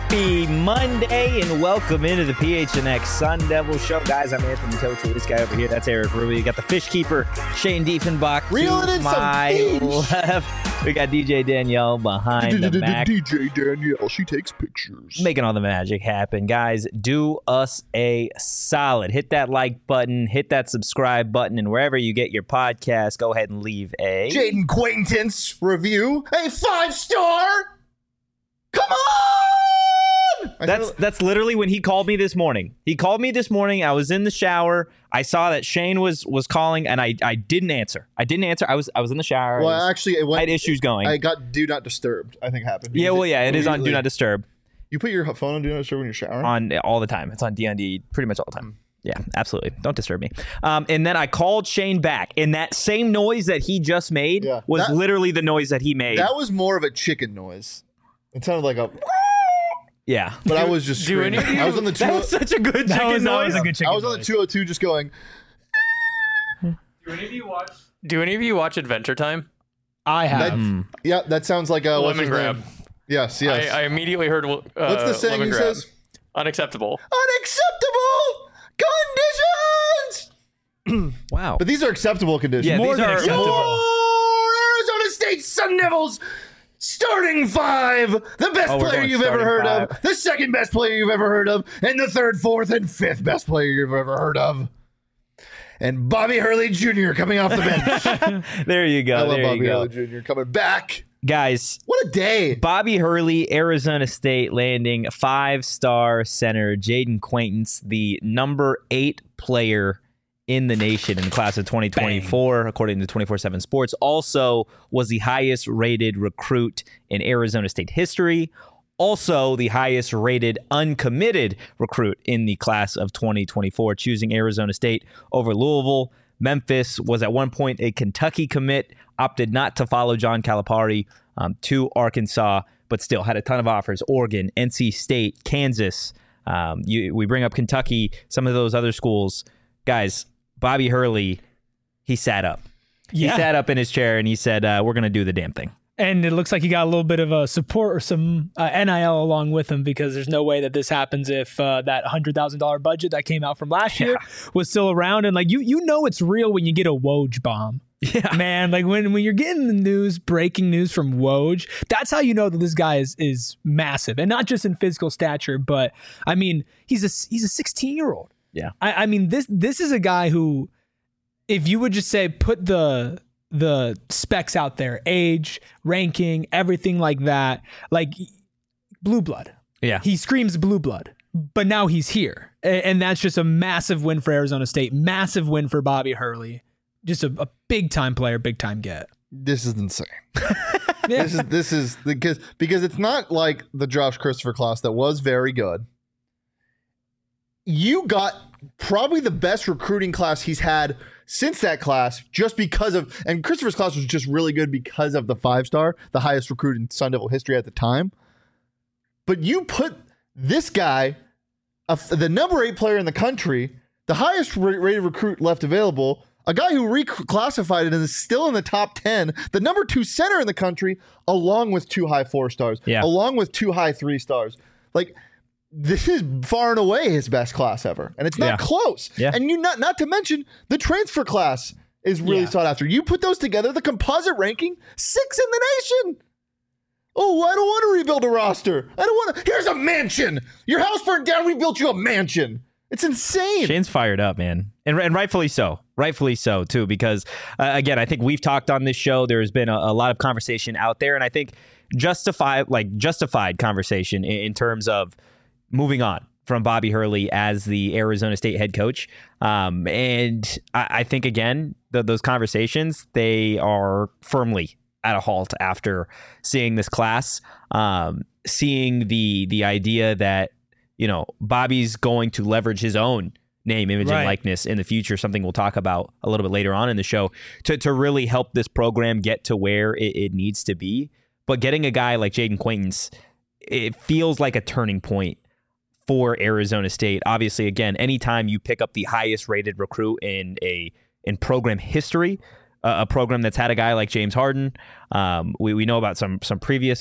Happy Monday and welcome into the PHNX Sun Devil Show. Guys, I'm Anthony Tochi. This guy over here, that's Eric Rubio. You got the fish keeper, Shane Diefenbach, to my left. We got DJ Danielle behind the Mac. DJ Danielle, she takes pictures. Making all the magic happen. Guys, do us a solid. Hit that like button, hit that subscribe button, and wherever you get your podcast, go ahead and leave a Jaden Quaintance review. A 5-star. Come on! That's literally when he called me this morning. He called me this morning. I was in the shower. I saw that Shane was calling, and I didn't answer. I was in the shower. Well, actually, I had issues going. I got Do Not Disturbed, I think happened. Yeah, well, yeah, it is on Do Not Disturb. You put your phone on Do Not Disturb when you're showering? On all the time. It's on DND pretty much all the time. Yeah, absolutely. Don't disturb me. And then I called Shane back, and that same noise that he just made was literally the noise that he made. That was more of a chicken noise. It sounded like a... Yeah. But I was just screaming. I was on the That was such a good chicken noise. That was a good chicken I was on the 202 just going... Do any of you watch Adventure Time? I have. Yeah, that sounds like a... Lemon grab. Yes. I immediately heard What's the saying he says? Unacceptable. Unacceptable conditions! Wow. But these are acceptable conditions. Yeah, More these than are acceptable. Your Arizona State Sun Devils starting five. The best we're player going you've ever heard starting of. The second best player you've ever heard of. And the third, fourth, and fifth best player you've ever heard of. And Bobby Hurley Jr. coming off the bench. There you go. I love there Bobby you go. Hurley Jr. coming back. Guys, What a day. Bobby Hurley, Arizona State landing 5-star center Jaden Quaintance, the number 8 player in the nation in the class of 2024, according to 24/7 Sports. Also was the highest rated recruit in Arizona State history. Also the highest rated uncommitted recruit in the class of 2024, choosing Arizona State over Louisville. Memphis was at one point a Kentucky commit, opted not to follow John Calipari to Arkansas, but still had a ton of offers. Oregon, NC State, Kansas. We bring up Kentucky, some of those other schools. Guys, Bobby Hurley, he sat up. Yeah. He sat up in his chair and he said, we're going to do the damn thing. And it looks like he got a little bit of a support or some NIL along with him, because there's no way that this happens if that $100,000 budget that came out from last year was still around. And like you know it's real when you get a Woj bomb. Yeah, man. Like when you're getting the news, breaking news from Woj, that's how you know that this guy is massive, and not just in physical stature, but I mean he's a 16-year-old. Yeah, I mean this is a guy who, if you would just say put the specs out there, age, ranking, everything like that, like blue blood. Yeah. He screams blue blood, but now he's here. And that's just a massive win for Arizona State. Massive win for Bobby Hurley. Just a big time player, big time get. This is insane. Yeah. This is because it's not like the Josh Christopher class that was very good. You got probably the best recruiting class he's had since that class, just because of, and Christopher's class was just really good because of the 5-star, the highest recruit in Sun Devil history at the time. But you put this guy, the number 8 player in the country, the highest rated recruit left available, a guy who reclassified it and is still in the top 10, the number 2 center in the country, along with 2 high 4-stars, along with 2 high 3-stars. Like, this is far and away his best class ever, and it's not close. Yeah. And you not to mention the transfer class is really sought after. You put those together, the composite ranking, 6 in the nation. Oh, I don't want to rebuild a roster. I don't want to. Here's a mansion. Your house burned down. We built you a mansion. It's insane. Shane's fired up, man. And rightfully so. Rightfully so, too, because, again, I think we've talked on this show. There's been a lot of conversation out there, and I think justified conversation in terms of moving on from Bobby Hurley as the Arizona State head coach. And I think, again, those conversations, they are firmly at a halt after seeing this class, seeing the idea that, you know, Bobby's going to leverage his own name, image, and likeness in the future, something we'll talk about a little bit later on in the show, to really help this program get to where it needs to be. But getting a guy like Jaden Quaintance, it feels like a turning point for Arizona State. Obviously, again, anytime you pick up the highest rated recruit in program history, a program that's had a guy like James Harden, we know about some previous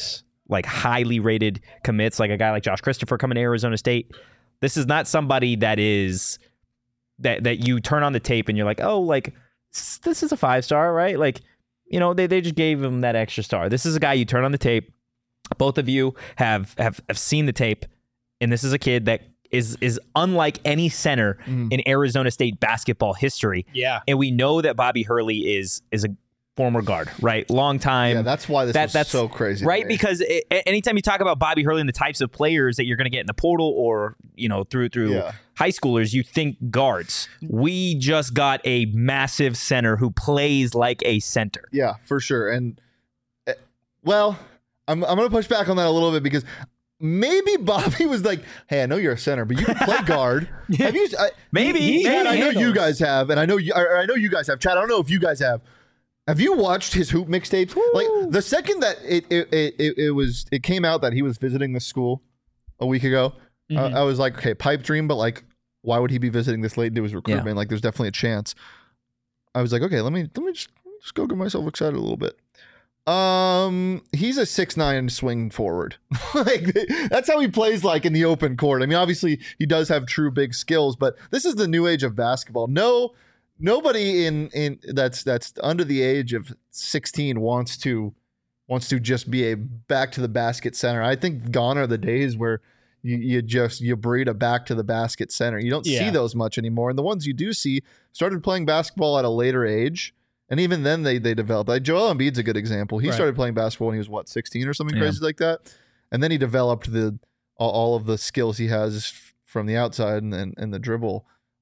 like highly rated commits, like a guy like Josh Christopher coming to Arizona State. This is not somebody that is that you turn on the tape and you're like, oh, like this is a 5-star, right? Like, you know, they just gave him that extra star. This is a guy you turn on the tape. Both of you have seen the tape, and this is a kid that is unlike any center in Arizona State basketball history. Yeah. And we know that Bobby Hurley is a former guard, right? Long time. Yeah, that's why that's so crazy. Right? to me. Because anytime you talk about Bobby Hurley and the types of players that you're going to get in the portal or, you know, through high schoolers, you think guards. We just got a massive center who plays like a center. Yeah, for sure. And, well, I'm going to push back on that a little bit because maybe Bobby was like, hey, I know you're a center, but you can play guard. Have you? Maybe. Chad, I know you guys have, and I know you guys have. Chad, I don't know if you guys have. Have you watched his hoop mixtapes? Woo. Like the second that it came out that he was visiting the school a week ago, I was like, okay, pipe dream, but like, why would he be visiting this late into his recruitment? Yeah. Like, there's definitely a chance. I was like, okay, let me just go get myself excited a little bit. He's a 6'9" swing forward. Like that's how he plays like in the open court. I mean, obviously he does have true big skills, but this is the new age of basketball. Nobody in that's under the age of 16 wants to just be a back to the basket center. I think gone are the days where you breed a back to the basket center. You don't see those much anymore. And the ones you do see started playing basketball at a later age. And even then they developed. Like Joel Embiid's a good example. He started playing basketball when he was 16 or something crazy like that. And then he developed all of the skills he has from the outside and the dribble.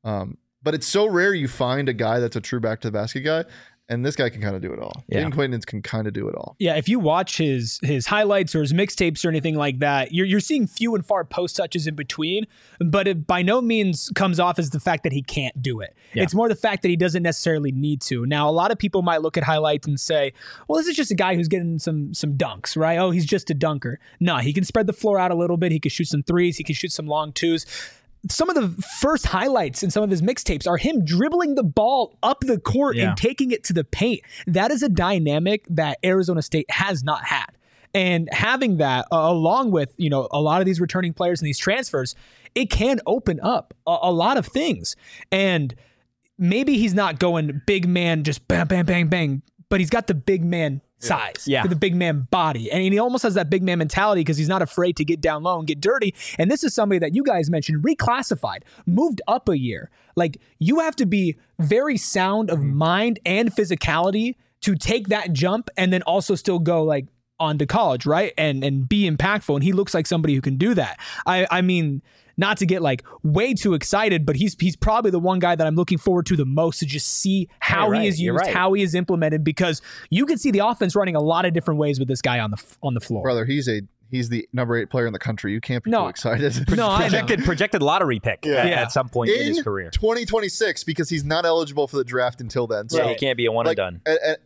But it's so rare you find a guy that's a true back to the basket guy. And this guy can kind of do it all. Yeah. Jaden Quaintance can kind of do it all. Yeah, if you watch his highlights or his mixtapes or anything like that, you're seeing few and far post touches in between, but it by no means comes off as the fact that he can't do it. Yeah. It's more the fact that he doesn't necessarily need to. Now, a lot of people might look at highlights and say, well, this is just a guy who's getting some dunks, right? Oh, he's just a dunker. No, he can spread the floor out a little bit. He can shoot some threes. He can shoot some long twos. Some of the first highlights in some of his mixtapes are him dribbling the ball up the court and taking it to the paint. That is a dynamic that Arizona State has not had. And having that along with, you know, a lot of these returning players and these transfers, it can open up a lot of things. And maybe he's not going big man, just bang, bang, bang, bang, but he's got the big man size, the big man body. And he almost has that big man mentality because he's not afraid to get down low and get dirty. And this is somebody that you guys mentioned, reclassified, moved up a year. Like, you have to be very sound of mind and physicality to take that jump and then also still go like on to college, right? And be impactful. And he looks like somebody who can do that. I mean, not to get like way too excited, but he's probably the one guy that I'm looking forward to the most to just see how he is used, how he is implemented, because you can see the offense running a lot of different ways with this guy on the floor. Brother, he's the number 8 player in the country. You can't be too excited. No, projected lottery pick at some point in his career. 2026, because he's not eligible for the draft until then. So he can't be a one and done.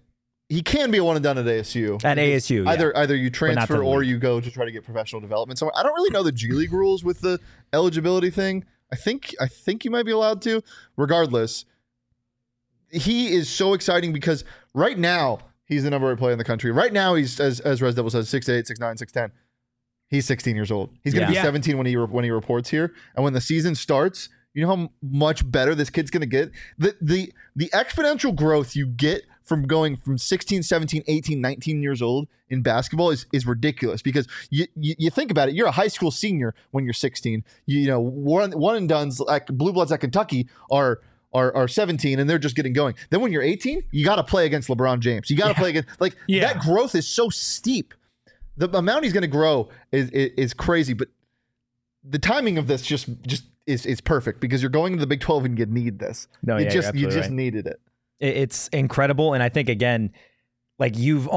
He can be a one and done at ASU. At ASU, either you transfer or you go to try to get professional development somewhere. I don't really know the G League rules with the eligibility thing. I think you might be allowed to. Regardless, he is so exciting because right now he's the number 8 player in the country. Right now he's, as Res Devil says, 6'8", 6'9", 6'10". He's 16 years old. He's going to be 17 when he reports here. And when the season starts, you know how much better this kid's going to get? The exponential growth you get from going from 16, 17, 18, 19 years old in basketball is ridiculous, because you think about it. You're a high school senior when you're 16. You know, one and dones like Blue Bloods at Kentucky are 17 and they're just getting going. Then when you're 18, you got to play against LeBron James. You got to play against that growth is so steep. The amount he's going to grow is crazy, but the timing of this just is perfect, because you're going to the Big 12 and you need this. You just needed it. It's incredible. And I think, again, like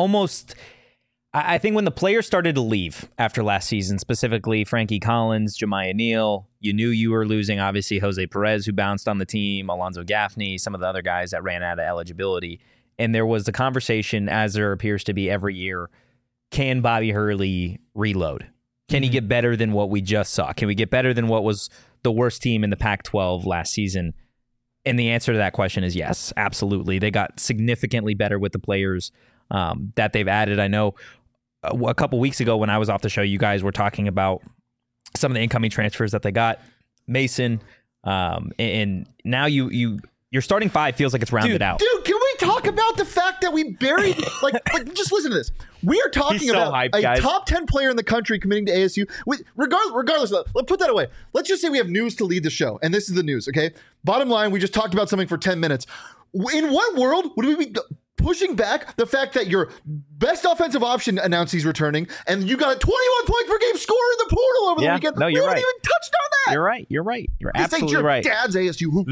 I think when the players started to leave after last season, specifically Frankie Collins, Jemiah Neal, you knew you were losing, obviously, Jose Perez, who bounced on the team, Alonzo Gaffney, some of the other guys that ran out of eligibility. And there was the conversation, as there appears to be every year, can Bobby Hurley reload? Can he get better than what we just saw? Can we get better than what was the worst team in the Pac-12 last season? And the answer to that question is yes, absolutely. They got significantly better with the players that they've added. I know a couple weeks ago when I was off the show, you guys were talking about some of the incoming transfers that they got. Mason, and now your starting five feels like it's rounded out. Dude, can we talk about the fact that we buried like just listen to this. We are talking about hyped, a guys. top 10 player in the country committing to ASU. Regardless of that, let's put that away. Let's just say we have news to lead the show, and this is the news, okay? Bottom line, we just talked about something for 10 minutes. In what world would we be pushing back the fact that your best offensive option announced he's returning, and you got a 21 points per game score in the portal over the weekend? No, you're we right. haven't even touched on that. You're right. You're This ain't absolutely your right. dad's ASU hoop.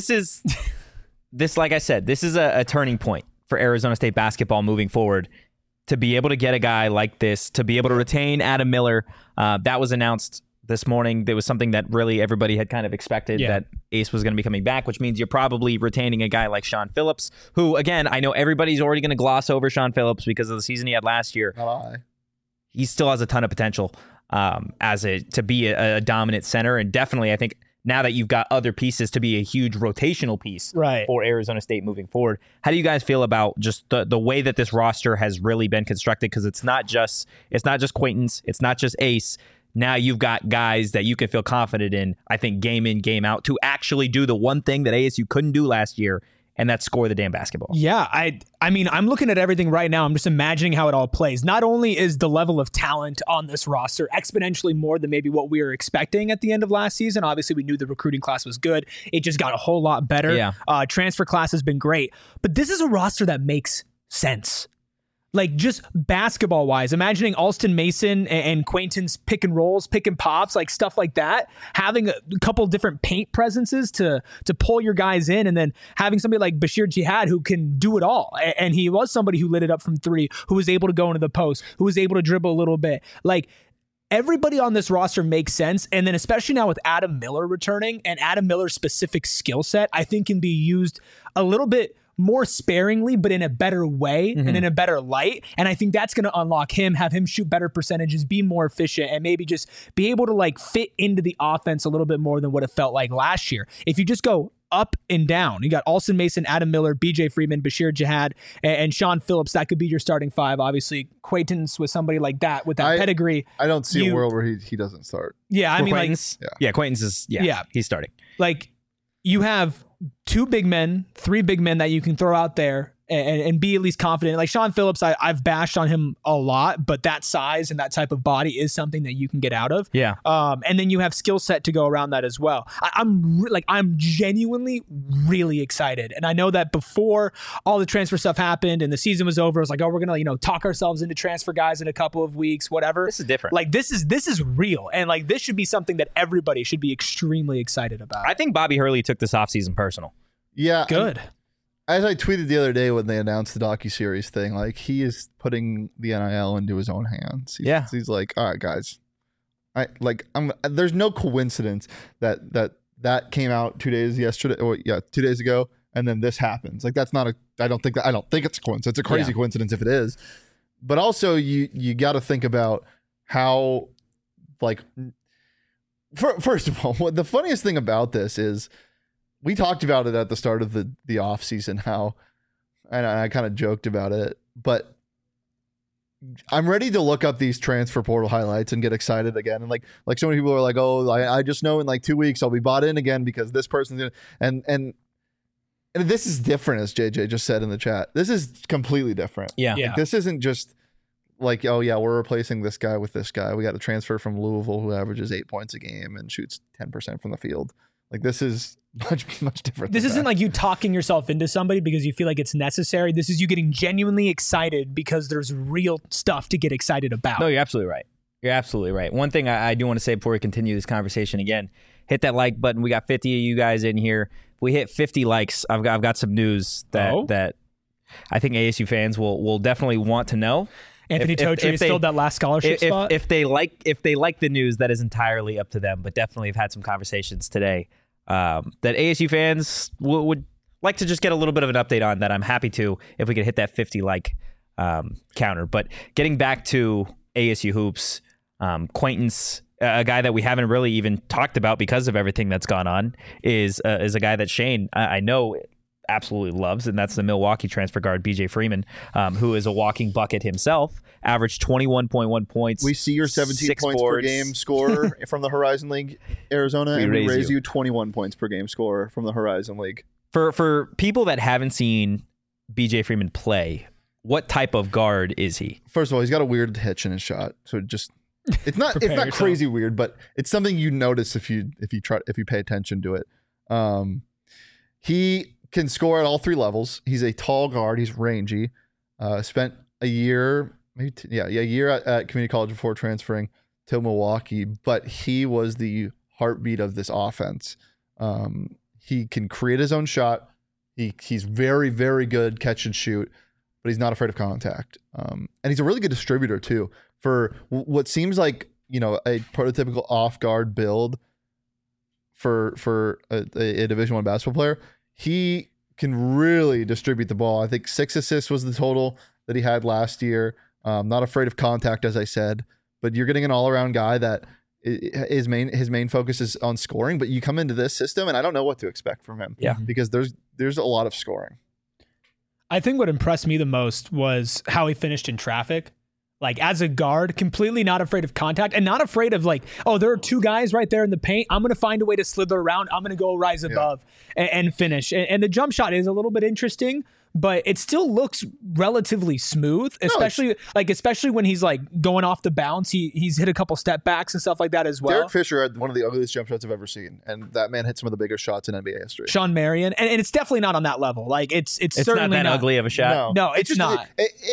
This, like I said, this is a turning point for Arizona State basketball moving forward. To be able to get a guy like this, to be able to retain Adam Miller, that was announced this morning. There was something that really everybody had kind of expected, that Ace was going to be coming back, which means you're probably retaining a guy like Sean Phillips, who, again, I know everybody's already going to gloss over Sean Phillips because of the season he had last year. He still has a ton of potential to be a dominant center, and definitely, I think, now that you've got other pieces to be a huge rotational piece for Arizona State moving forward. How do you guys feel about just the way that this roster has really been constructed? Because it's not just Quaintance, it's not just Ace. Now you've got guys that you can feel confident in, I think, game in, game out, to actually do the one thing that ASU couldn't do last year, and that's score the damn basketball. Yeah, I mean, I'm looking at everything right now. I'm just imagining how it all plays. Not only is the level of talent on this roster exponentially more than maybe what we were expecting at the end of last season. Obviously, we knew the recruiting class was good. It just got a whole lot better. Yeah. Transfer class has been great. But this is a roster that makes sense. Like, just basketball wise, imagining Alston Mason and Quaintance pick and rolls, pick and pops, like stuff like that, having a couple different paint presences to pull your guys in, and then having somebody like Bashir Jihad who can do it all. And he was somebody who lit it up from three, who was able to go into the post, who was able to dribble a little bit. Like, everybody on this roster makes sense. And then especially now with Adam Miller returning, and Adam Miller's specific skill set, I think can be used a little bit more sparingly, but in a better way and in a better light. And I think that's going to unlock him, have him shoot better percentages, be more efficient, and maybe just be able to like fit into the offense a little bit more than what it felt like last year. If you just go up and down, you got Alston Mason, Adam Miller, BJ Freeman, Bashir Jihad, and Sean Phillips. That could be your starting five. Obviously, Quaintance with somebody like that, with that pedigree. I don't see a world where he doesn't start. Yeah, I mean, Quaintance, Quaintance is, he's starting. Like, you have two big men, three big men that you can throw out there and be at least confident. Like Sean Phillips, I've bashed on him a lot, but that size and that type of body is something that you can get out of. Yeah. And then you have skill set to go around that as well. I'm genuinely really excited. And I know that before all the transfer stuff happened and the season was over, it was like, oh, we're going to, talk ourselves into transfer guys in a couple of weeks, whatever. This is different. Like this is real. And like, this should be something that everybody should be extremely excited about. I think Bobby Hurley took this offseason personal. Yeah. Good. As I tweeted the other day when they announced the docuseries thing, like, he is putting the NIL into his own hands. He's like, all right, guys, there's no coincidence that came out 2 days ago, and then this happens. Like, that's not I don't think it's a coincidence. It's a crazy coincidence if it is. But also, you got to think about how, like, first of all, the funniest thing about this is, we talked about it at the start of the off season, how, and I kind of joked about it, but I'm ready to look up these transfer portal highlights and get excited again. And like so many people are like, oh, I just know in like 2 weeks I'll be bought in again because this person's gonna, and this is different, as JJ just said in the chat. This is completely different. Yeah. Like, this isn't just like, oh yeah, we're replacing this guy with this guy. We got a transfer from Louisville who averages 8 points a game and shoots 10% from the field. Like, this is much different. This isn't like you talking yourself into somebody because you feel like it's necessary. This is you getting genuinely excited because there's real stuff to get excited about. No, you're absolutely right. You're absolutely right. One thing I do want to say before we continue this conversation, again, hit that like button. We got 50 of you guys in here. If we hit 50 likes, I've got some news that I think ASU fans will definitely want to know. Anthony Totri has filled that last scholarship spot. If they like the news, that is entirely up to them. But definitely have had some conversations today that ASU fans would like to just get a little bit of an update on. That I'm happy to if we could hit that 50 like counter. But getting back to ASU hoops, Quaintance, a guy that we haven't really even talked about because of everything that's gone on, is a guy that Shane, I know absolutely loves, and that's the Milwaukee transfer guard, BJ Freeman, who is a walking bucket himself, averaged 21.1 points. We see your 17 6 points boards. per game scorer from the Horizon League, Arizona, and we raise you 21 points per game scorer from the Horizon League. For people that haven't seen BJ Freeman play, what type of guard is he? First of all, he's got a weird hitch in his shot, so it's not yourself. crazy weird, but it's something you notice if you pay attention to it. He can score at all 3 levels. He's a tall guard. He's rangy. Spent a year, a year at community college before transferring to Milwaukee. But he was the heartbeat of this offense. He can create his own shot. He's very, very good catch and shoot, but he's not afraid of contact. And he's a really good distributor too. For what seems like a prototypical off guard build for a Division I basketball player, he can really distribute the ball. I think 6 assists was the total that he had last year. Not afraid of contact, as I said, but you're getting an all-around guy that his main focus is on scoring. But you come into this system, and I don't know what to expect from him. Yeah, because there's a lot of scoring. I think what impressed me the most was how he finished in traffic. Like as a guard, completely not afraid of contact and not afraid of like, oh, there are 2 guys right there in the paint. I'm going to find a way to slither around. I'm going to go rise above and finish. And the jump shot is a little bit interesting, but it still looks relatively smooth, especially when he's like going off the bounce. He's hit a couple step backs and stuff like that as well. Derek Fisher had one of the ugliest jump shots I've ever seen, and that man hit some of the biggest shots in NBA history. Sean Marion, and it's definitely not on that level. Like it's certainly not that ugly of a shot. No, it's not.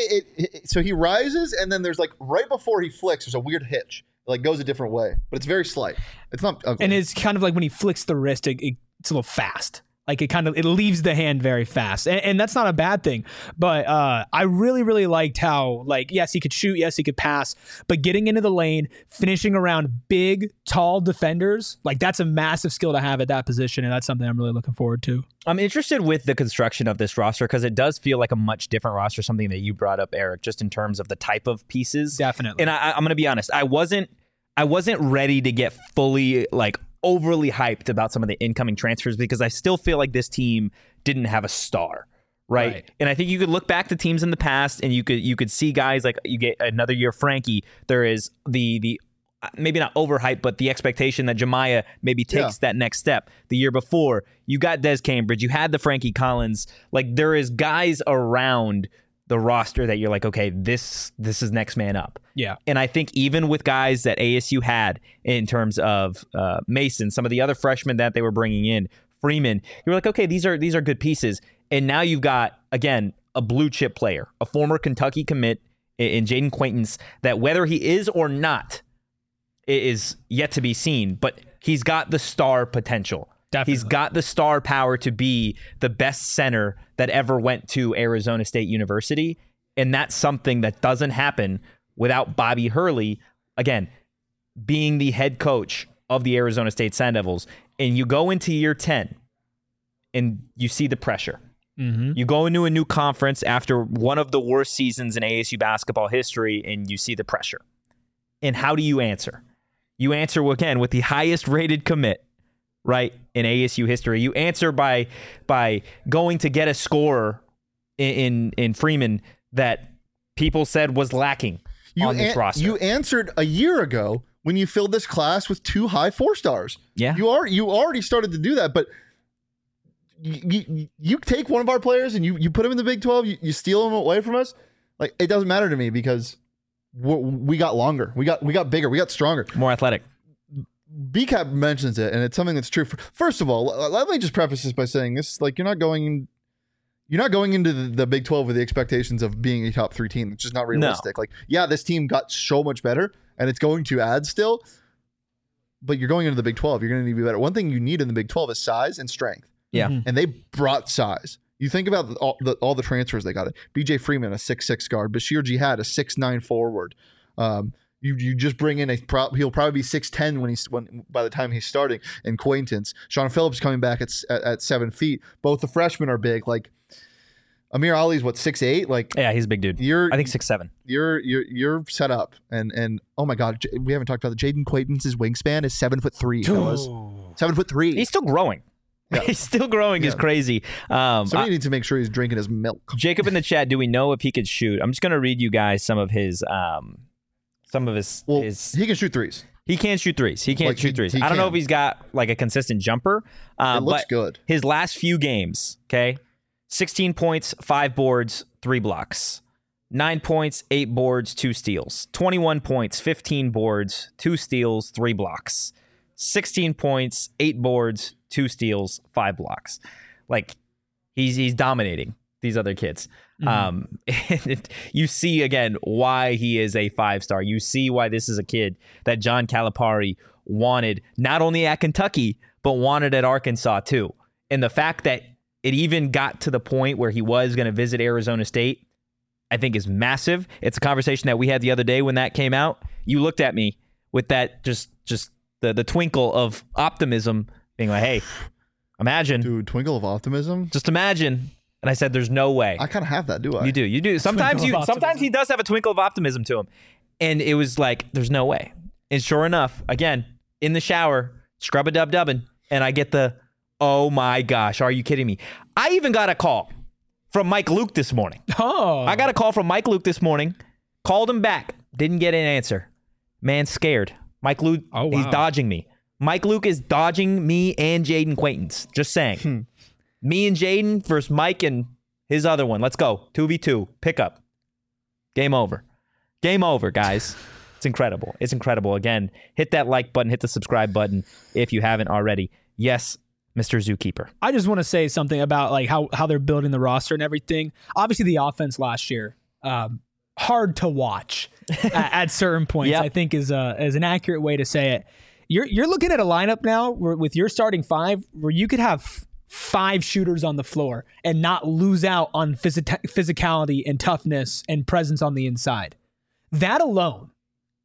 So he rises, and then there's like right before he flicks, there's a weird hitch. It like goes a different way, but it's very slight. It's not ugly. And it's kind of like when he flicks the wrist, it's a little fast. Like it leaves the hand very fast, and that's not a bad thing. But I really, really liked how, like, yes, he could shoot, yes, he could pass, but getting into the lane, finishing around big, tall defenders, like that's a massive skill to have at that position, and that's something I'm really looking forward to. I'm interested with the construction of this roster because it does feel like a much different roster, something that you brought up, Eric, just in terms of the type of pieces. Definitely. And I'm going to be honest, I wasn't ready to get fully like overly hyped about some of the incoming transfers because I still feel like this team didn't have a star, right? And I think you could look back to teams in the past and you could see guys like you get another year Frankie. There is the maybe not overhyped, but the expectation that Jemiah maybe takes that next step. The year before, you got Des Cambridge, you had the Frankie Collins. Like there is guys around the roster that you're like, okay, this is next man up. Yeah. And I think even with guys that ASU had in terms of Mason, some of the other freshmen that they were bringing in, Freeman, you're like, okay, these are good pieces. And now you've got, again, a blue chip player, a former Kentucky commit in Jaden Quaintance, that whether he is or not is yet to be seen, but he's got the star potential. Definitely. He's got the star power to be the best center that ever went to Arizona State University. And that's something that doesn't happen without Bobby Hurley, again, being the head coach of the Arizona State Sun Devils. And you go into year 10 and you see the pressure. Mm-hmm. You go into a new conference after one of the worst seasons in ASU basketball history and you see the pressure. And how do you answer? You answer, again, with the highest rated commit, right, in ASU history. You answer by going to get a scorer in Freeman that people said was lacking on this roster. You answered a year ago when you filled this class with 2 high 4-stars. Yeah. You already started to do that, but you take one of our players and you put him in the Big 12, you steal him away from us. Like, it doesn't matter to me because we got longer. We got bigger. We got stronger. More athletic. BCAP mentions it, and it's something that's true. First of all, let me just preface this by saying this: like you're not going into the Big 12 with the expectations of being a top 3 team. It's just not realistic. No. Like, yeah, this team got so much better, and it's going to add still. But you're going into the Big 12. You're going to need to be better. One thing you need in the Big 12 is size and strength. Yeah, and they brought size. You think about all the transfers they got. It. BJ Freeman, a 6'6" guard. Bashir Jihad, a 6'9" forward. You just bring in he'll probably be 6'10" by the time he's starting. And Quaintance, Sean Phillips coming back at 7 feet. Both the freshmen are big. Like Amir Ali's 6'8". Like yeah, he's a big dude. I think 6'7". You're set up. And oh my God, we haven't talked about the Jaden Quaintance's wingspan is 7'3", fellas. 7'3". He's still growing. He's still growing is crazy. Somebody needs to make sure he's drinking his milk. Jacob in the chat, do we know if he could shoot? I'm just going to read you guys some of his He can shoot threes. He can't shoot threes. He can't shoot threes. I don't know if he's got like a consistent jumper. It looks but good. His last few games, okay, 16 points, 5 boards, 3 blocks. 9 points, 8 boards, 2 steals. 21 points, 15 boards, 2 steals, 3 blocks. 16 points, 8 boards, 2 steals, 5 blocks. Like he's dominating these other kids. And you see again why he is a 5-star. You see why this is a kid that John Calipari wanted not only at Kentucky but wanted at Arkansas too. And the fact that it even got to the point where he was going to visit Arizona State, I think is massive. It's a conversation that we had the other day when that came out. You looked at me with that just the twinkle of optimism, being like, "Hey, imagine, Dude, twinkle of optimism. just imagine." And I said, "There's no way." I kind of have that, do I? You do. Sometimes he does have a twinkle of optimism to him, and it was like, "There's no way." And sure enough, again in the shower, scrub a dub dubbing, and I get the, "Oh my gosh, are you kidding me?" I even got a call from Mike Luke this morning. Oh, I got a call from Mike Luke this morning. Called him back. Didn't get an answer. Man scared. Mike Luke, he's dodging me. Mike Luke is dodging me and Jaden Quaintance. Just saying. Me and Jaden versus Mike and his other one. Let's go. 2v2. Pick up. Game over. Game over, guys. It's incredible. It's incredible. Again, hit that like button. Hit the subscribe button if you haven't already. Yes, Mr. Zookeeper. I just want to say something about like how they're building the roster and everything. Obviously, the offense last year, hard to watch at certain points. Yep. I think is an accurate way to say it. You're looking at a lineup now with your starting 5 where you could have 5 shooters on the floor and not lose out on physicality and toughness and presence on the inside. That alone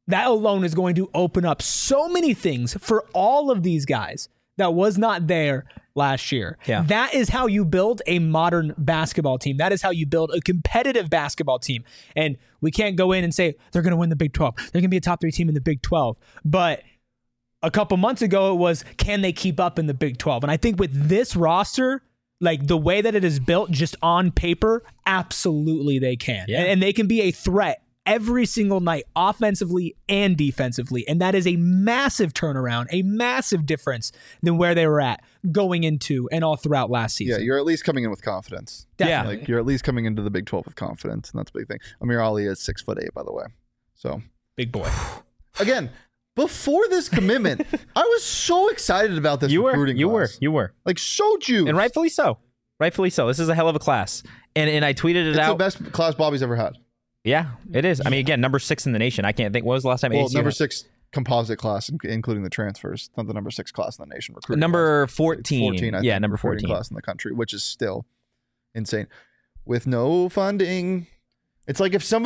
is going to open up so many things for all of these guys that was not there last year. Yeah. That is how you build a modern basketball team. That is how you build a competitive basketball team. And we can't go in and say they're going to win the Big 12. They're going to be a top 3 team in the Big 12. But a couple months ago, it was, can they keep up in the Big 12? And I think with this roster, like the way that it is built just on paper, absolutely they can. Yeah. And they can be a threat every single night, offensively and defensively. And that is a massive turnaround, a massive difference than where they were at going into and all throughout last season. Yeah, you're at least coming in with confidence. Definitely. Like you're at least coming into the Big 12 with confidence, and that's a big thing. Amir Ali is 6'8", by the way. So Big boy. again, before this commitment, I was so excited about this recruiting class. You were. Like so juiced. And rightfully so. Rightfully so. This is a hell of a class. And I tweeted it It's out. the best class Bobby's ever had. Yeah, it is. I mean, again, number 6 in the nation. I can't think. What was the last time? Well, ASU number had- 6 composite class, including the transfers. Not the number 6 class in the nation. Recruiting Number class. 14. 14, I Yeah, think, number recruiting 14. class in the country, which is still insane. With no funding, it's like if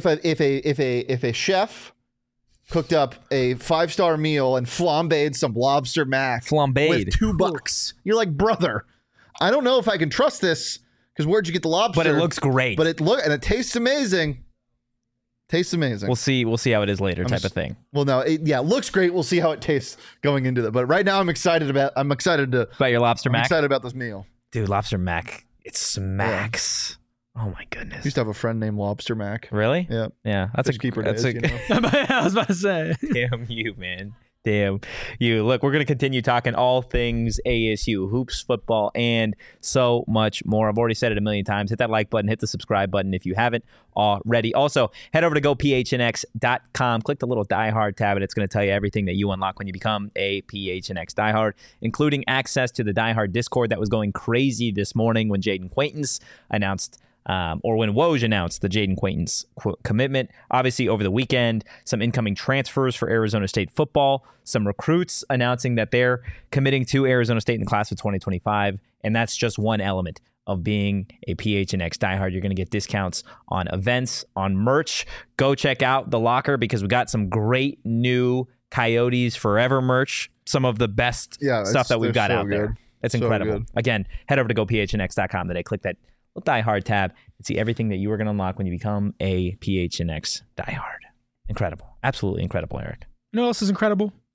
a chef cooked up a 5-star meal and flambéed some lobster mac Flambéed. with $2. You're like, brother, I don't know if I can trust this because where'd you get the lobster? But it looks great. But it tastes amazing. Tastes amazing. We'll see how it is later, type of thing. Well, no, it looks great. We'll see how it tastes going into that. But right now, I'm excited about About your lobster I'm mac? excited about this meal. Dude, lobster mac. It smacks. Oh my I goodness. used to have a friend named Lobster Mac. Really? Yeah. Yeah. That's Fish keeper that's days, a you know? I was about to say. Damn you, man. Damn you. Look, we're going to continue talking all things ASU, hoops, football, and so much more. I've already said it a million times. Hit that like button, hit the subscribe button if you haven't already. Also, head over to gophnx.com. Click the little diehard tab, and it's going to tell you everything that you unlock when you become a PHNX diehard, including access to the diehard Discord that was going crazy this morning when Jaden Quaintance announced or when Woj announced the Jaden Quaintance commitment. Obviously, over the weekend, some incoming transfers for Arizona State football, some recruits announcing that they're committing to Arizona State in the class of 2025, and that's just one element of being a PHNX diehard. You're going to get discounts on events, on merch. Go check out The Locker because we got some great new Coyotes Forever merch, some of the best stuff that we've got so out there. good. It's So incredible. good. Again, head over to gophnx.com today. Click that little diehard tab and see everything that you are going to unlock when you become a PHNX diehard. Incredible. Absolutely incredible, Eric. You know what else is incredible?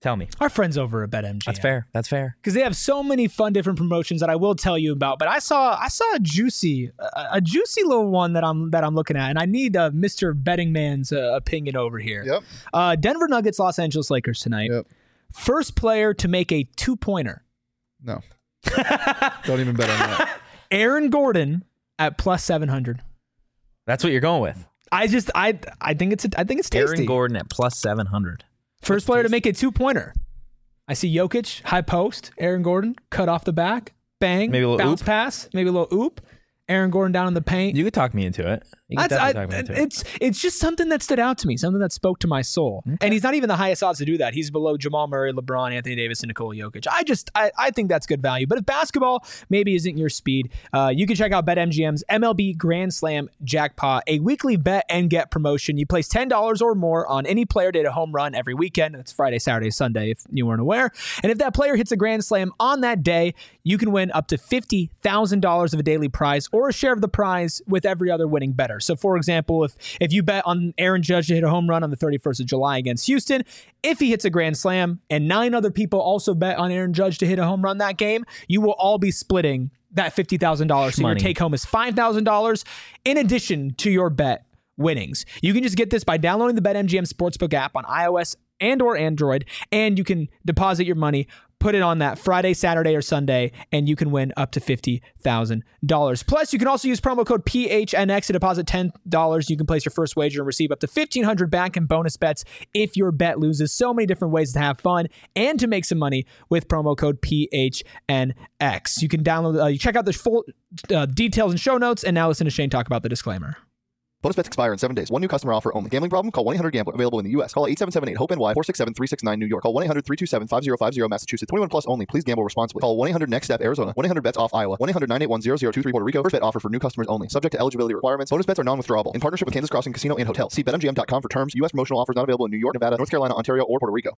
Tell me. Our friends over at BetMGM. That's fair. That's fair. Because they have so many fun different promotions that I will tell you about. But I saw a juicy little one that I'm looking at, and I need Mr. Betting Man's opinion over here. Yep. Denver Nuggets, Los Angeles Lakers tonight. Yep. First player to make a 2-pointer. No. Don't even bet on that. Aaron Gordon at plus 700. That's what you're going with. I think it's tasty. Aaron Gordon at plus 700. First player to make a 2-pointer. I see Jokic, high post. Aaron Gordon, cut off the back. Bang. Maybe a little bounce oop. pass. Maybe a little oop. Aaron Gordon down in the paint. You could talk me into it. You could definitely talk me into it. It's just something that stood out to me, something that spoke to my soul. Okay. And he's not even the highest odds to do that. He's below Jamal Murray, LeBron, Anthony Davis, and Nikola Jokic. I think that's good value. But if basketball maybe isn't your speed, you can check out BetMGM's MLB Grand Slam Jackpot, a weekly bet and get promotion. You place $10 or more on any player to hit a home run every weekend. That's Friday, Saturday, Sunday, if you weren't aware. And if that player hits a Grand Slam on that day, you can win up to $50,000 of a daily prize or a share of the prize with every other winning bettor. So, for example, if you bet on Aaron Judge to hit a home run on the 31st of July against Houston, if he hits a grand slam and 9 other people also bet on Aaron Judge to hit a home run that game, you will all be splitting that $50,000. So your take home is $5,000 in addition to your bet winnings. You can just get this by downloading the BetMGM Sportsbook app on iOS and or Android, and you can deposit your money, put it on that Friday, Saturday, or Sunday, and you can win up to $50,000. Plus, you can also use promo code PHNX to deposit $10. You can place your first wager and receive up to $1,500 back in bonus bets if your bet loses. So many different ways to have fun and to make some money with promo code PHNX. You can download, you check out the full details and show notes, and now listen to Shane talk about the disclaimer. Bonus bets expire in 7 days. One new customer offer only. Gambling problem? Call 1-800-GAMBLER. Available in the U.S. Call 877-8-HOPE-NY 467-369 New York. Call 1-800-327-5050 Massachusetts. 21 plus only. Please gamble responsibly. Call 1-800-NEXT-STEP Arizona. 1-800-BETS-OFF Iowa. 1-800-981-0023 Puerto Rico. First bet offer for new customers only. Subject to eligibility requirements. Bonus bets are non-withdrawable. In partnership with Kansas Crossing Casino and Hotel. See BetMGM.com for terms. U.S. promotional offers not available in New York, Nevada, North Carolina, Ontario, or Puerto Rico.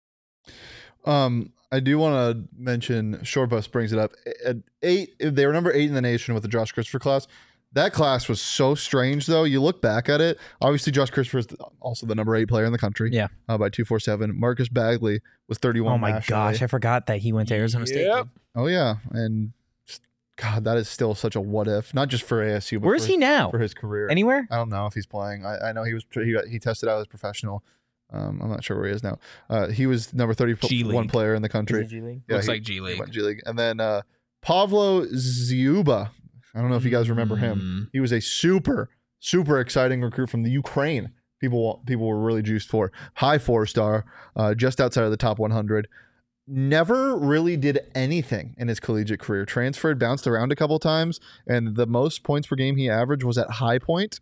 I do want to mention, Short Bus brings it up. At 8, they were number 8 in the nation with the Josh Christopher class. That class was so strange, though. You look back at it. Obviously, Josh Christopher is also the number 8 player in the country. Yeah. By 247. Marcus Bagley was 31. Oh my gosh, I forgot that he went to Arizona State. Oh yeah, and God, that is still such a what if. Not just for ASU, but Where's he now? For his career. Anywhere? I don't know if he's playing. I know he tested out as professional. I'm not sure where he is now. He was number 31 player in the country. G League? Yeah, Looks like G League. He went G League. And then Pavlo Ziuba. I don't know if you guys remember him. He was a super exciting recruit from the Ukraine. People were really juiced for. High 4-star, just outside of the top 100. Never really did anything in his collegiate career. Transferred, bounced around a couple times, and the most points per game he averaged was at High Point,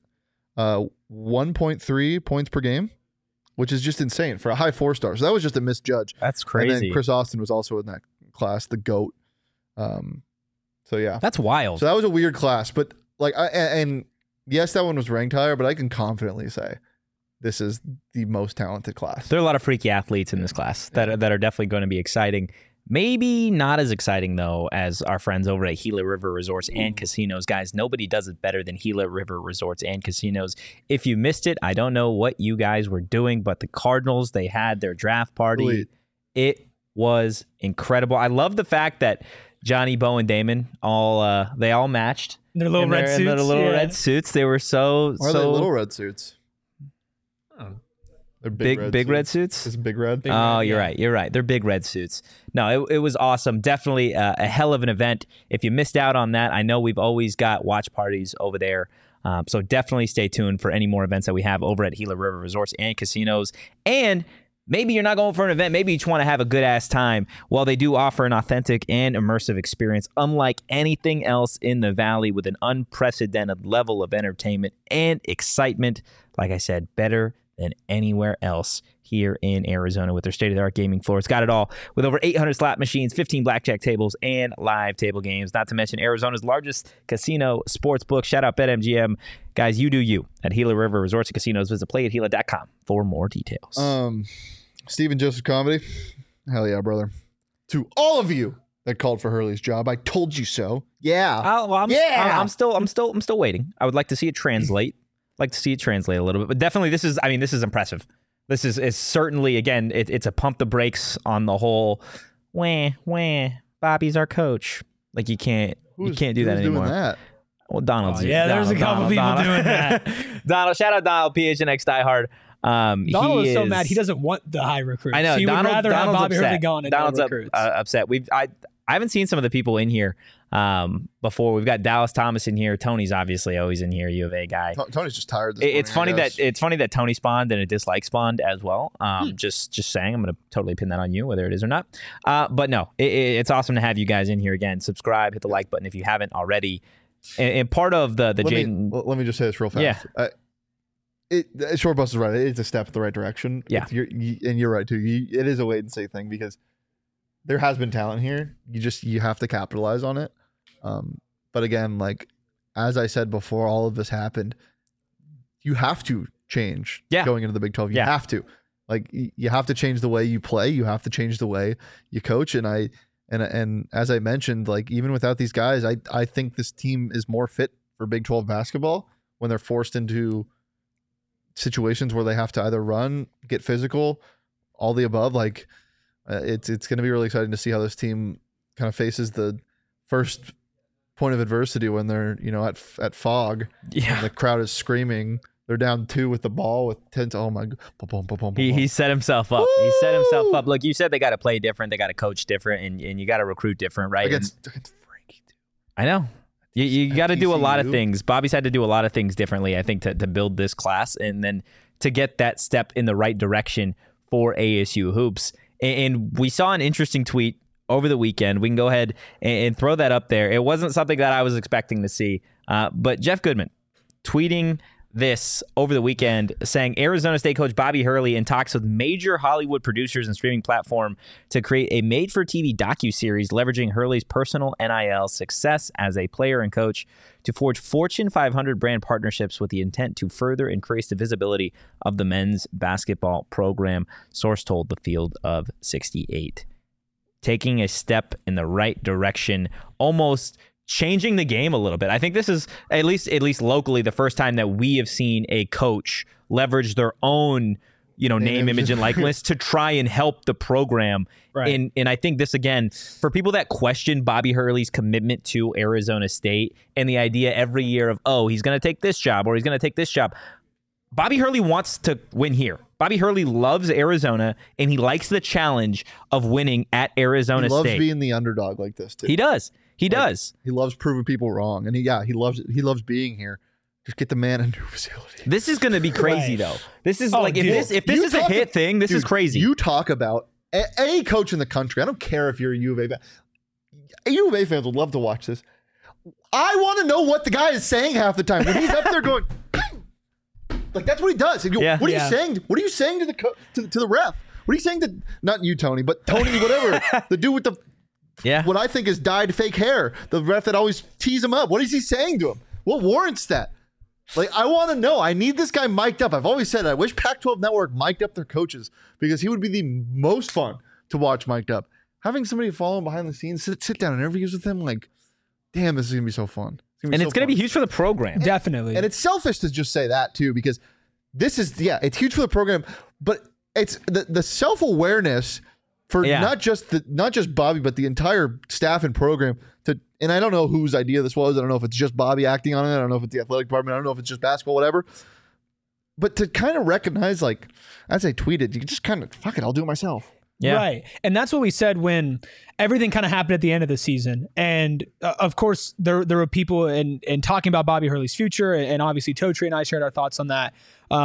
1.3 points per game, which is just insane for a high 4-star. So that was just a misjudge. That's crazy. And then Chris Austin was also in that class, the GOAT. So yeah, that's wild. So that was a weird class, but like, and yes, that one was ranked higher, but I can confidently say this is the most talented class. There are a lot of freaky athletes in this class that are definitely going to be exciting. Maybe not as exciting, though, as our friends over at Gila River Resorts and Casinos. Guys, nobody does it better than Gila River Resorts and Casinos. If you missed it, I don't know what you guys were doing, but the Cardinals, they had their draft party. Elite. It was incredible. I love the fact that Johnny, Bo, and Damon they all matched. Their little red suits. Their little red suits. They were so Why are they little red suits? They're big red suits. Is it big red? You're right. You're right. They're big red suits. No, it was awesome. Definitely a hell of an event. If you missed out on that, I know we've always got watch parties over there. So definitely stay tuned for any more events that we have over at Gila River Resorts and Casinos. And maybe you're not going for an event. Maybe you just want to have a good ass time. Well, they do offer an authentic and immersive experience unlike anything else in the Valley, with an unprecedented level of entertainment and excitement. Like I said, better than anywhere else here in Arizona with their state-of-the-art gaming floor. It's got it all with over 800 slot machines, 15 blackjack tables, and live table games. Not to mention Arizona's largest casino sports book. Shout out BetMGM. Guys, you do you at Gila River Resorts and Casinos. Visit playatgila.com for more details. Stephen Joseph Comedy. Hell yeah, brother. To all of you that called for Hurley's job, I told you so. Yeah. I'm still waiting. I would like to see it translate. A little bit, but definitely this is impressive. This is certainly, again, it's a pump the brakes on the whole, wah, Bobby's our coach. Like you can't do that anymore. Doing that? Well, Donald's there's a couple people doing that. Donald, shout out Donald, PHNX diehard. Donald is so mad he doesn't want the high recruits. I know. He would rather have Bobby Hurley gone and Donald's no recruits. upset. I haven't seen some of the people in here before. We've got Dallas Thomas in here. Tony's obviously always in here. U of A guy. Tony's just tired. It's funny that Tony spawned and a dislike spawned as well. Just saying, I'm going to totally pin that on you, whether it is or not. But no, it's awesome to have you guys in here again. Subscribe, hit the like button if you haven't already. And part of the Jaden. Let me just say this real fast. Yeah. Short Bus is right. It's a step in the right direction. Yeah. And you're right too. It is a wait and see thing because there has been talent here. You have to capitalize on it. But again, like as I said before, all of this happened. You have to change going into the Big 12. You have to. Like you have to change the way you play. You have to change the way you coach. And as I mentioned, like even without these guys, I think this team is more fit for Big 12 basketball when they're forced into situations where they have to either run, get physical, all the above. Like it's going to be really exciting to see how this team kind of faces the first point of adversity when they're at Fog. Yeah, and the crowd is screaming. They're down 2 with the ball with 10. Oh my god! He set himself up. Woo! He set himself up. Look, you said they got to play different. They got to coach different, and you got to recruit different, right? Against Frankie, too. I know. You got to do a lot of things. Bobby's had to do a lot of things differently, I think, to build this class and then to get that step in the right direction for ASU hoops. And we saw an interesting tweet over the weekend. We can go ahead and throw that up there. It wasn't something that I was expecting to see, but Jeff Goodman tweeting this over the weekend saying Arizona State coach Bobby Hurley in talks with major Hollywood producers and streaming platform to create a made-for-TV docuseries leveraging Hurley's personal NIL success as a player and coach to forge Fortune 500 brand partnerships with the intent to further increase the visibility of the men's basketball program, source told the Field of 68. Taking a step in the right direction, almost changing the game a little bit. I think this is at least locally the first time that we have seen a coach leverage their own, name, image, and likeness to try and help the program. Right. And I think this, again, for people that question Bobby Hurley's commitment to Arizona State and the idea every year of, he's going to take this job or he's going to take this job. Bobby Hurley wants to win here. Bobby Hurley loves Arizona, and he likes the challenge of winning at Arizona State. He loves being the underdog like this, too. He does. He does. He loves proving people wrong, and he loves it. He loves being here. Just get the man a new facility. This is going to be crazy, though. This is if this is a hit thing, this is crazy. You talk about any coach in the country. I don't care if you're a U of A fan. U of A fans would love to watch this. I want to know what the guy is saying half the time when he's up there going. Like that's what he does. What are you saying? What are you saying to the ref? What are you saying to not you, Tony, but Tony, whatever, the dude with the what I think is dyed fake hair, the ref that always tees him up. What is he saying to him? What warrants that? Like I want to know. I need this guy mic'd up. I've always said I wish Pac-12 Network mic'd up their coaches because he would be the most fun to watch mic'd up. Having somebody follow him behind the scenes, sit down and interviews with him, like, damn, this is gonna be so fun. It's going to be huge for the program. Definitely. And it's selfish to just say that too, because this is, it's huge for the program, but it's the self-awareness for not just Bobby, but the entire staff and program and I don't know whose idea this was. I don't know if it's just Bobby acting on it. I don't know if it's the athletic department. I don't know if it's just basketball, whatever. But to kind of recognize, like, as I tweeted, you can just kind of, fuck it, I'll do it myself. Yeah. Right. And that's what we said when everything kind of happened at the end of the season. And of course, there were people in talking about Bobby Hurley's future. And obviously, Totri and I shared our thoughts on that.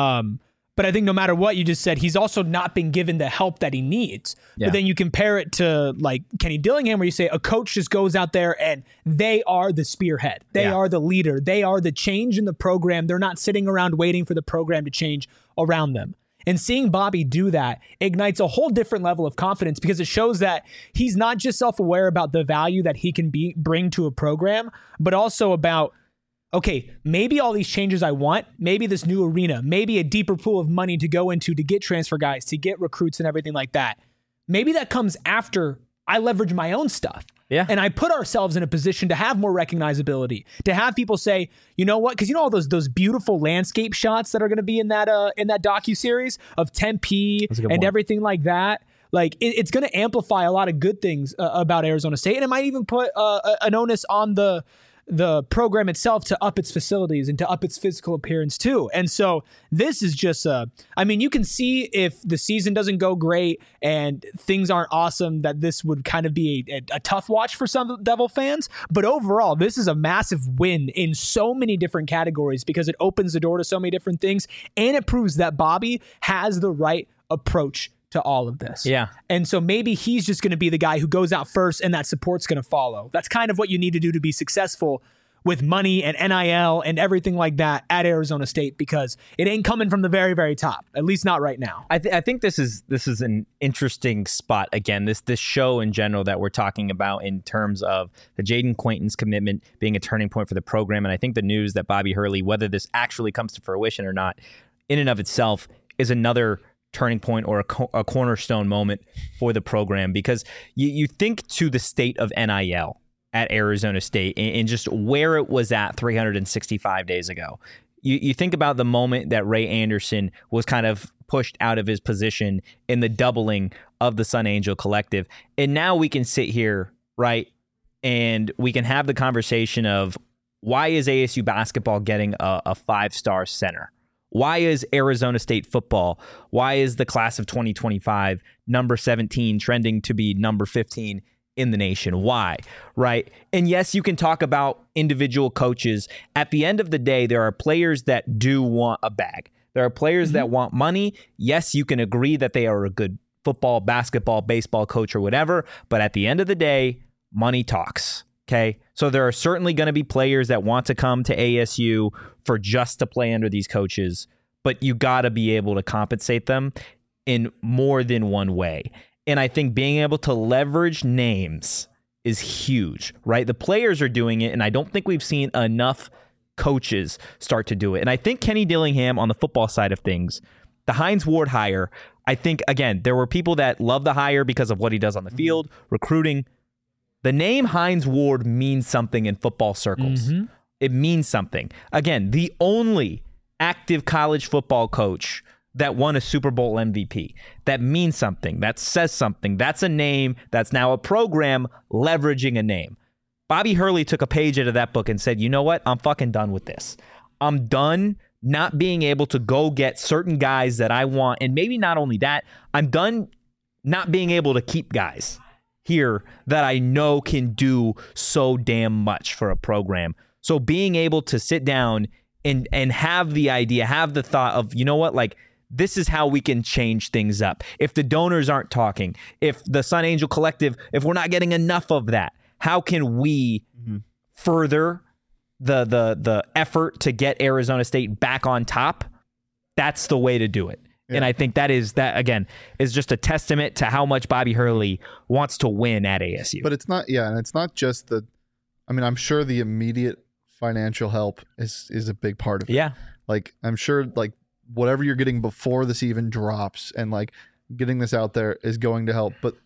But I think no matter what you just said, he's also not been given the help that he needs. Yeah. But then you compare it to like Kenny Dillingham, where you say a coach just goes out there and they are the spearhead. They are the leader. They are the change in the program. They're not sitting around waiting for the program to change around them. And seeing Bobby do that ignites a whole different level of confidence because it shows that he's not just self-aware about the value that he can bring to a program, but also about, okay, maybe all these changes I want, maybe this new arena, maybe a deeper pool of money to go into to get transfer guys, to get recruits and everything like that. Maybe that comes after I leverage my own stuff. Yeah. And I put ourselves in a position to have more recognizability, to have people say, you know what? Because you know all those beautiful landscape shots that are going to be in that docuseries of Tempe and one. everything like that. Like it's going to amplify a lot of good things about Arizona State, and it might even put an onus on the program itself to up its facilities and to up its physical appearance too. And so this is just I mean, you can see if the season doesn't go great and things aren't awesome, that this would kind of be a tough watch for some Devil fans. But overall, this is a massive win in so many different categories because it opens the door to so many different things, and it proves that Bobby has the right approach to all of this. Yeah. And so maybe he's just going to be the guy who goes out first and that support's going to follow. That's kind of what you need to do to be successful with money and NIL and everything like that at Arizona State, because it ain't coming from the very, very top, at least not right now. I think this is an interesting spot. Again, this show in general that we're talking about in terms of the Jaden Quaintance commitment being a turning point for the program. And I think the news that Bobby Hurley, whether this actually comes to fruition or not, in and of itself is another turning point or a cornerstone moment for the program, because you think to the state of NIL at Arizona State and just where it was at 365 days ago. You think about the moment that Ray Anderson was kind of pushed out of his position in the doubling of the Sun Angel Collective. And now we can sit here, right, and we can have the conversation of why is ASU basketball getting a 5-star center? Why is Arizona State football, why is the class of 2025 number 17 trending to be number 15 in the nation? Why? Right? And yes, you can talk about individual coaches. At the end of the day, there are players that do want a bag. There are players that want money. Yes, you can agree that they are a good football, basketball, baseball coach or whatever. But at the end of the day, money talks. Okay, so there are certainly going to be players that want to come to ASU for just to play under these coaches, but you got to be able to compensate them in more than one way. And I think being able to leverage names is huge, right? The players are doing it, and I don't think we've seen enough coaches start to do it. And I think Kenny Dillingham on the football side of things, the Hines Ward hire, I think, again, there were people that love the hire because of what he does on the field, recruiting. The name Hines Ward means something in football circles. It means something. Again, the only active college football coach that won a Super Bowl MVP. That means something. That says something. That's a name. That's now a program leveraging a name. Bobby Hurley took a page out of that book and said, you know what? I'm fucking done with this. I'm done not being able to go get certain guys that I want. And maybe not only that, I'm done not being able to keep guys here that I know can do so damn much for a program. So being able to sit down and have the idea, have the thought of, you know what, like, this is how we can change things up. If the donors aren't talking, if the Sun Angel Collective, if we're not getting enough of that, how can we further the effort to get Arizona State back on top? That's the way to do it. Yeah. And I think that again is just a testament to how much Bobby Hurley wants to win at ASU. But it's not, and it's not just I'm sure the immediate financial help is a big part of it. Yeah. Like, I'm sure, like, whatever you're getting before this even drops and, like, getting this out there is going to help. But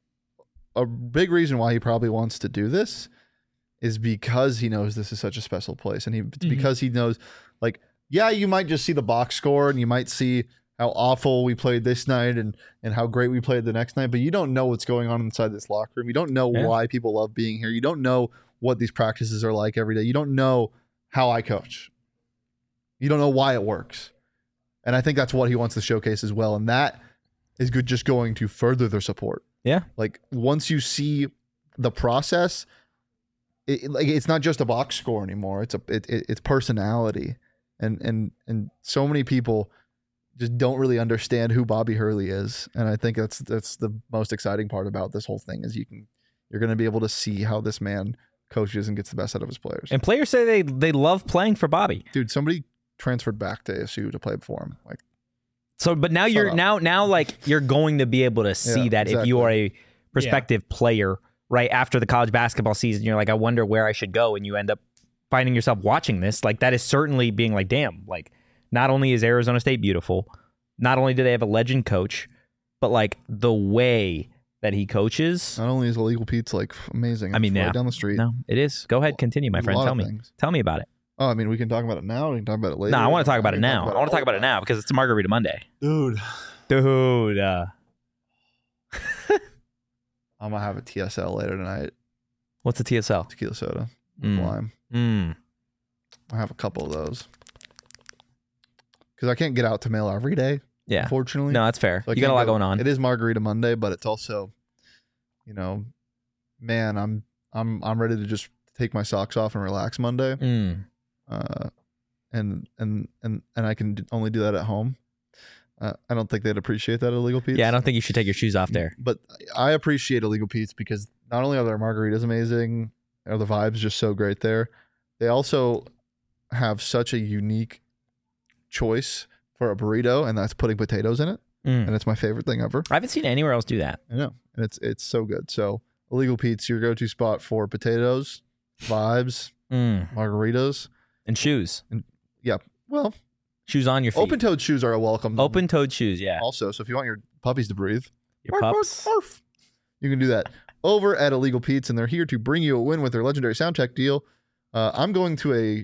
a big reason why he probably wants to do this is because he knows this is such a special place. And it's because he knows, like, yeah, you might just see the box score and you might see how awful we played this night and how great we played the next night, but you don't know what's going on inside this locker room. You don't know why people love being here. You don't know what these practices are like every day. You don't know how I coach. You don't know why it works. And I think that's what he wants to showcase as well. And that is good, just going to further their support. Yeah. Like, once you see the process, it's not just a box score anymore. It's personality. And so many people just don't really understand who Bobby Hurley is. And I think that's the most exciting part about this whole thing is you're going to be able to see how this man coaches and gets the best out of his players. And players say they love playing for Bobby. Dude, somebody transferred back to ASU to play for him. Like, so, but now you're like you're going to be able to see that exactly. If you are a prospective player, right after the college basketball season, you're like, I wonder where I should go, and you end up finding yourself watching this. Like, that is certainly being like, damn, like, not only is Arizona State beautiful, not only do they have a legend coach, but like the way that he coaches. Not only is Illegal Pete's like amazing. I mean, it's yeah. right down the street. No, it is. Go ahead, continue, my A friend. lot Tell of me. things. Tell me about it. Oh, I mean, we can talk about it now. We can talk about it later. No, I want to talk about it We can now. I want to talk about it now because it's Margarita Monday. Dude. Dude. I'm gonna have a TSL later tonight. What's a TSL? Tequila soda, with Mm. lime. I have a couple of those because I can't get out to mail every day. Yeah. Unfortunately, No, that's fair. So I You got a can't lot go- going on. It is Margarita Monday, but it's also, man, I'm ready to just take my socks off and relax Monday. And I can only do that at home. I don't think they'd appreciate that at Illegal Pete's. Yeah, I don't think you should take your shoes off there. But I appreciate Illegal Pete's because not only are their margaritas amazing, are the vibes just so great there, they also have such a unique choice for a burrito, and that's putting potatoes in it. And it's my favorite thing ever. I haven't seen anywhere else do that. I know. And it's so good. So Illegal Pete's, your go-to spot for potatoes, vibes, margaritas. And shoes. Yeah. Well, Shoes on your feet. open-toed shoes are a welcome. Open-toed shoes, yeah. Also, so if you want your puppies to breathe, Your pups. barf, you can do that over at Illegal Pete's, and they're here to bring you a win with their legendary sound check deal. I'm going to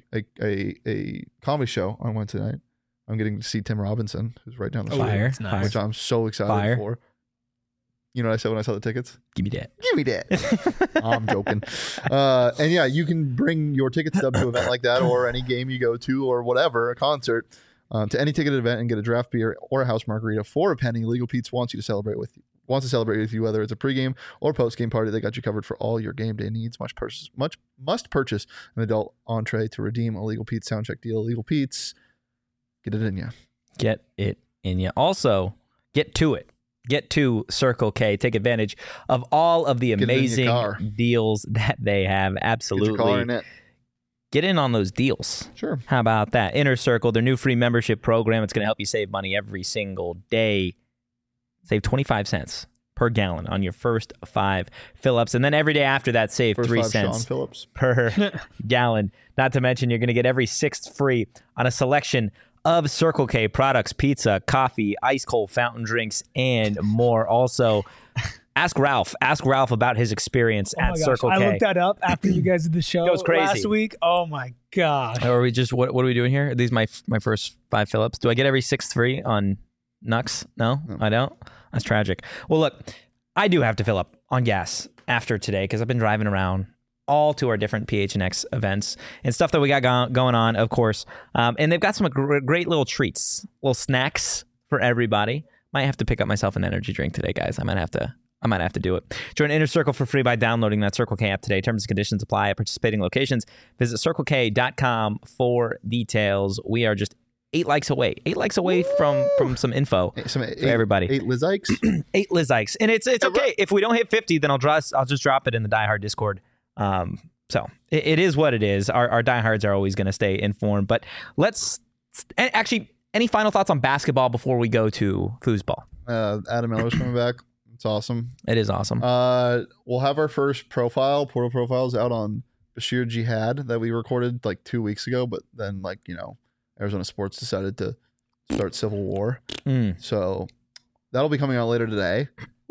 a comedy show on Wednesday night. I'm getting to see Tim Robinson, who's right down the street, Fire. That's nice. which I'm so excited Fire. for. You know what I said when I saw the tickets? Give me that. Give me that. I'm joking. And yeah, you can bring your ticket stub to an event like that, or any game you go to, or whatever, a concert, to any ticketed event and get a draft beer or a house margarita for a penny. Legal Pete's wants to celebrate with you, whether it's a pregame or postgame party. They got you covered for all your game day needs. Must purchase an adult entree to redeem a Legal Pete's sound check deal. Legal Pete's, get it in ya. Get it in you. Also, get to it. Get to Circle K. Take advantage of all of the Get it in your amazing car. deals that they have. Get Absolutely. your car in it. Get in on those deals. Sure. How about that? Inner Circle, their new free membership program. It's going to help you save money every single day. Save 25 cents per gallon on your first 5 fill-ups. And then every day after that, save First 3 5 Sean cents Phillips. per gallon. Not to mention, you're going to get every 6th free on a selection of Circle K products, pizza, coffee, ice cold fountain drinks, and more. Also, ask Ralph. Ask Ralph about his experience Oh my at gosh, Circle K. I looked that up after you guys did the show Goes crazy. last week. Oh my gosh. Or are we just what are we doing here? Are these my first 5 fill-ups? Do I get every 6th free on Nux? No, I don't. That's tragic. Well, look, I do have to fill up on gas after today because I've been driving around all to our different PHNX events and stuff that we got going on, of course. And they've got some great little treats, little snacks for everybody. Might have to pick up myself an energy drink today, guys. I might have to do it. Join Inner Circle for free by downloading that Circle K app today. Terms and conditions apply at participating locations. Visit CircleK.com for details. We are just 8 likes away. 8 likes away from some info for everybody. 8 Liz Ikes. 8 Liz Ikes. And it's okay. If we don't hit 50, then I'll just drop it in the Die Hard Discord. So it is what it is. Our diehards are always going to stay informed. But actually, any final thoughts on basketball before we go to foosball? Adam Miller's coming back. It's awesome. It is awesome. We'll have our first portal profiles out on Bashir Jihad that we recorded like 2 weeks ago, but then Arizona Sports decided to start Civil War. So that'll be coming out later today.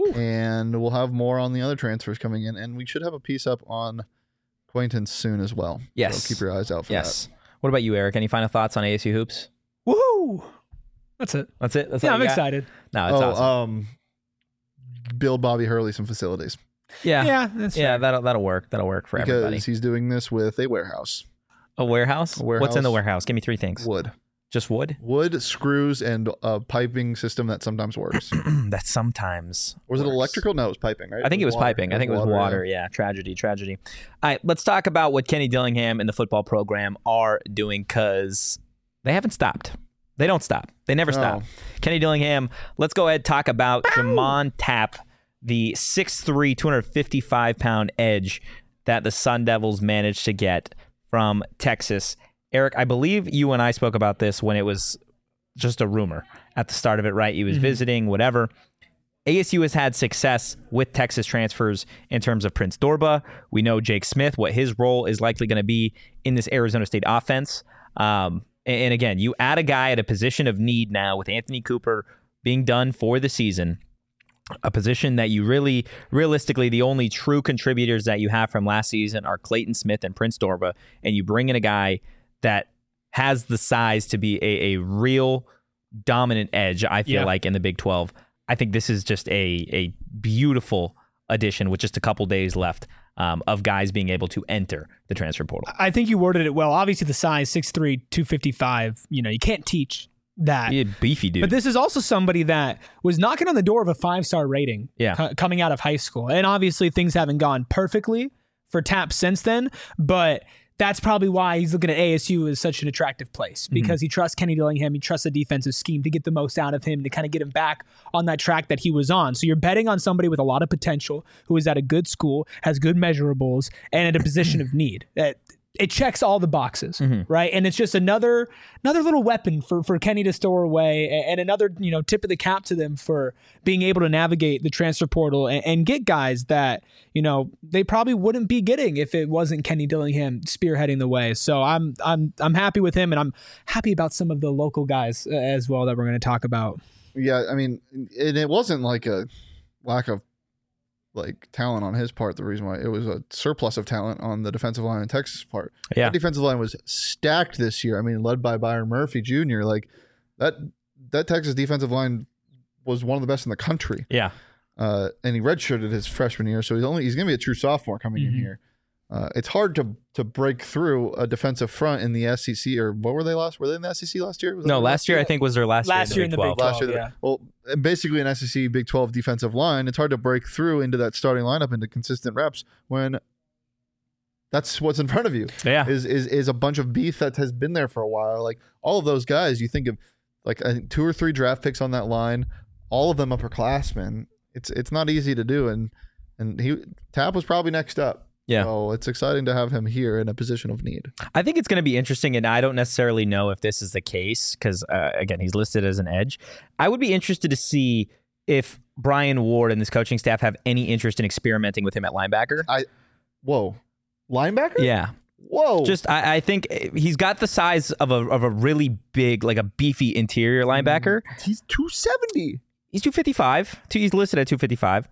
And we'll have more on the other transfers coming in, and we should have a piece up on Quaintance soon as well. Yes. So keep your eyes out for that. What about you, Eric? Any final thoughts on ASU hoops? Woohoo! That's it. That's it. That's Yeah, all I'm you got? excited. No, it's awesome. Build Bobby Hurley some facilities Yeah, that's yeah. fair. That'll work. That'll work for because everybody. he's doing this with a warehouse. A warehouse? A warehouse. What's in the warehouse? Give me 3 things. Wood, Just wood? screws, and a piping system that sometimes works. That sometimes Was it works. electrical? No, it was piping, right? I think it was water. piping. I think it was water. Yeah. Tragedy. All right, let's talk about what Kenny Dillingham and the football program are doing because they haven't stopped. They don't stop. They never stop. No. Kenny Dillingham, let's go ahead and talk about Jamon Tapp, the 6'3", 255-pound edge that the Sun Devils managed to get from Texas. Eric, I believe you and I spoke about this when it was just a rumor at the start of it, right? He was visiting, whatever. ASU has had success with Texas transfers in terms of Prince Dorba. We know Jake Smith, what his role is likely going to be in this Arizona State offense. And again, you add a guy at a position of need now with Anthony Cooper being done for the season. a position that you really, realistically, the only true contributors that you have from last season are Clayton Smith and Prince Dorba, and you bring in a guy that has the size to be a real dominant edge, I feel like, in the Big 12. I think this is just a beautiful addition with just a couple days left of guys being able to enter the transfer portal. I think you worded it well. Obviously, the size, 6'3", 255, you can't teach that. He a beefy dude. But this is also somebody that was knocking on the door of a 5-star rating coming out of high school. And obviously, things haven't gone perfectly for Tap since then, but that's probably why he's looking at ASU as such an attractive place, because he trusts Kenny Dillingham. He trusts the defensive scheme to get the most out of him, to kind of get him back on that track that he was on. So you're betting on somebody with a lot of potential, who is at a good school, has good measurables, and at a position of need. It checks all the boxes, right? And it's just another little weapon for Kenny to store away, and another tip of the cap to them for being able to navigate the transfer portal and get guys that they probably wouldn't be getting if it wasn't Kenny Dillingham spearheading the way. So I'm happy with him, and I'm happy about some of the local guys as well that we're going to talk about. Yeah, I mean, it wasn't like a lack of talent on his part. The reason why, it was a surplus of talent on the defensive line in Texas' part. Yeah, that defensive line was stacked this year. I mean, led by Byron Murphy Jr. That Texas defensive line was one of the best in the country. Yeah, and he redshirted his freshman year, so he's going to be a true sophomore coming in here. It's hard to break through a defensive front in the SEC, or what were they last? Were they in the SEC last year? No, last year I think was their last year in the Big 12. Last year, yeah. Well, basically an SEC Big 12 defensive line, it's hard to break through into that starting lineup into consistent reps when that's what's in front of you. Yeah, is a bunch of beef that has been there for a while. Like all of those guys, you think of I think 2 or 3 draft picks on that line, all of them upperclassmen. It's not easy to do, and Tap was probably next up. Yeah. So it's exciting to have him here in a position of need. I think it's going to be interesting, and I don't necessarily know if this is the case because, again, he's listed as an edge. I would be interested to see if Brian Ward and this coaching staff have any interest in experimenting with him at linebacker. Linebacker? Yeah. Whoa. I think he's got the size of a really big, like a beefy interior linebacker. He's 270. He's 255. He's listed at 255.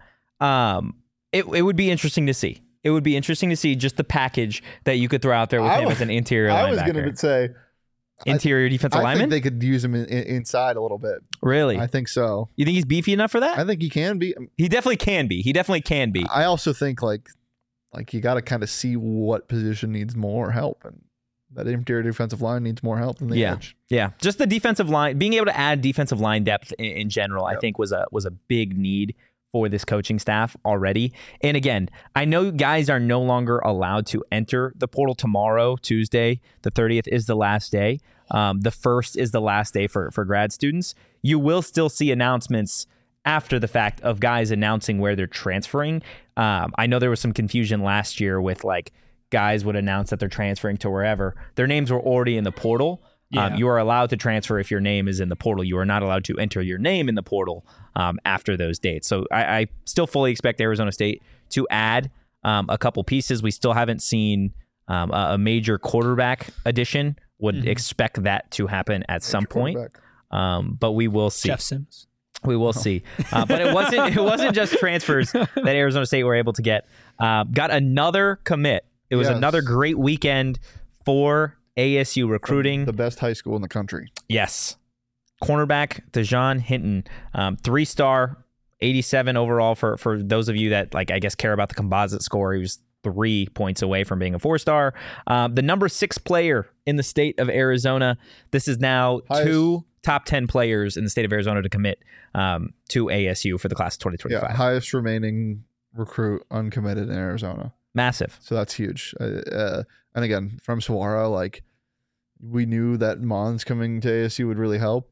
It would be interesting to see. It would be interesting to see just the package that you could throw out there with him as an interior linebacker. I was going to say interior defensive lineman. I think they could use him inside a little bit. Really? I think so. You think he's beefy enough for that? I think he can be. He definitely can be. I also think like you got to kind of see what position needs more help, and that interior defensive line needs more help than the edge. Yeah, just the defensive line, being able to add defensive line depth in general, I think was a big need for this coaching staff already. And again, I know guys are no longer allowed to enter the portal tomorrow, Tuesday. The 30th is the last day. The 1st is the last day for grad students. You will still see announcements after the fact of guys announcing where they're transferring. I know there was some confusion last year with guys would announce that they're transferring to wherever. Their names were already in the portal. Yeah. You are allowed to transfer if your name is in the portal. You are not allowed to enter your name in the portal after those dates. So I still fully expect Arizona State to add a couple pieces. We still haven't seen a major quarterback addition. Would expect that to happen at some point, but we will see. Jeff Sims. We will see. But it wasn't just transfers that Arizona State were able to get. Got another commit. It was another great weekend for ASU recruiting. The best high school in the country. Yes. Cornerback Dejon Hinton, 3-star, 87 overall for those of you that I guess care about the composite score. He was 3 points away from being a 4-star. The number 6 player in the state of Arizona. This is now two top 10 players in the state of Arizona to commit to ASU for the class of 2025. Yeah, highest remaining recruit uncommitted in Arizona. Massive. So that's huge. And again, from Saguaro, we knew that Mons coming to ASU would really help.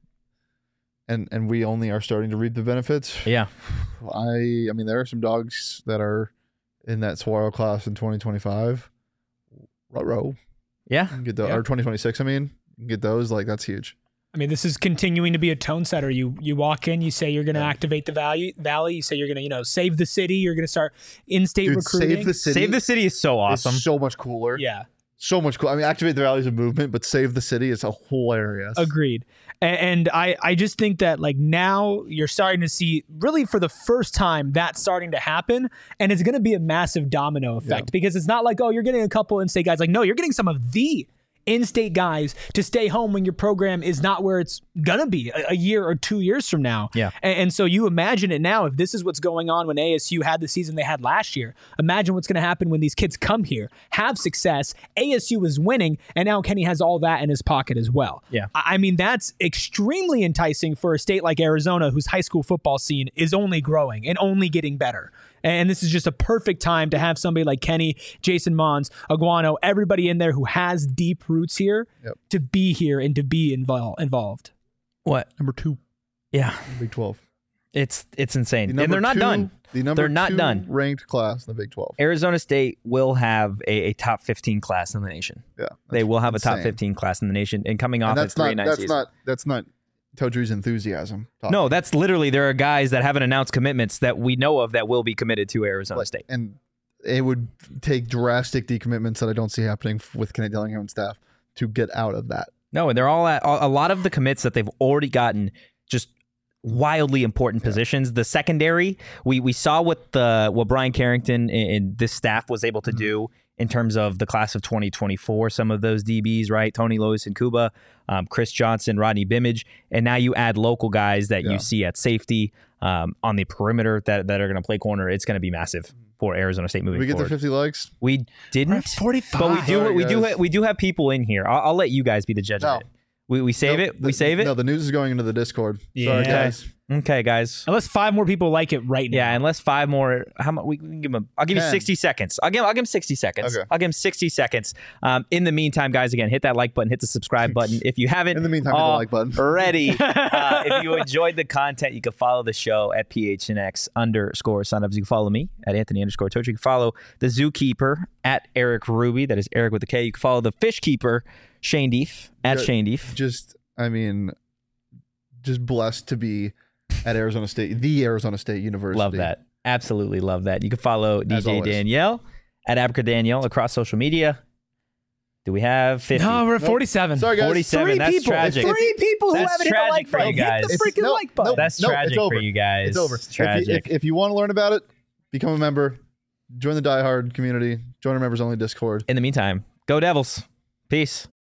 And we only are starting to reap the benefits. Yeah. I mean, there are some dogs that are in that Saguaro class in 2025. Row. Yeah. Get the, or 2026, I mean. You can get those. That's huge. I mean, this is continuing to be a tone setter. You walk in, you say you're going to activate the valley. You say you're going to, save the city. You're going to start in-state recruiting. Save the city. Save the city is so awesome. It's so much cooler. Yeah. so much cool. I mean, activate the values of movement, but save the city is hilarious. Agreed. And I just think that like now you're starting to see really for the first time that's starting to happen, and it's going to be a massive domino effect because it's not like, oh, you're getting a couple in-state guys. Like, no, you're getting some of the in-state guys to stay home when your program is not where it's gonna be a year or 2 years from now. Yeah. And so you imagine it now, if this is what's going on when ASU had the season they had last year, imagine what's gonna happen when these kids come here, have success, ASU is winning, and now Kenny has all that in his pocket as well. Yeah. I mean, that's extremely enticing for a state like Arizona, whose high school football scene is only growing and only getting better. And this is just a perfect time to have somebody like Kenny, Jason Mons, Aguano, everybody in there who has deep roots here to be here and to be involved. What? Number 2. Yeah. Big 12. It's insane. The And they're not two- done. The number They're not 2 done. ranked class in the Big 12. Arizona State will have a top 15 class in the nation. Yeah. They will have a top insane. 15 class in the nation. And coming off And a that's 3-9 not season. that's not Todri's enthusiasm. talking. No, that's literally, there are guys that haven't announced commitments that we know of that will be committed to Arizona State. And it would take drastic decommitments that I don't see happening with Kenny Dillingham and staff to get out of that. No, and they're all at a lot of the commits that they've already gotten just wildly important positions. The secondary, we saw what Brian Carrington and this staff was able to do in terms of the class of 2024, some of those DBs, right? Tony Lois and Kuba, Chris Johnson, Rodney Bimage, and now you add local guys that you see at safety on the perimeter that are going to play corner. It's going to be massive for Arizona State moving Did we get forward. the 50 likes? We didn't, 45. but we do guys. we do have people in here. I'll let you guys be the judge of it. We save it. We save it. No, the news is going into the Discord. Yeah. Sorry, guys. Okay, guys. Unless 5 more people like it right now. Yeah, unless 5 more. How much? We can give him. I'll give you 10. 60 seconds. I'll give him 60 seconds. Okay. I'll give him 60 seconds. In the meantime, guys, again, hit that like button, hit the subscribe button if you haven't. In the meantime, hit the like button. Already. If you enjoyed the content, you can follow the show at PHNX_signups. You can follow me at Anthony_Toach. You can follow the Zookeeper at Eric Ruby. That is Eric with a K. You can follow the Fish Keeper Shane Deef at Shane Deef. Just blessed to be at Arizona State, the Arizona State University. Love that. Absolutely love that. You can follow As DJ always. Danielle at Abaca Danielle across social media. Do we have 50? No, we're at 47. Sorry, guys. 47. Three That's people. tragic. 3 people who That's haven't hit the tragic like for you button. guys. Hit the freaking like button. That's No, tragic it's over. for you guys. It's over. It's tragic. If you want to learn about it, become a member. Join the Die Hard community. Join our members only Discord. In the meantime, go Devils. Peace.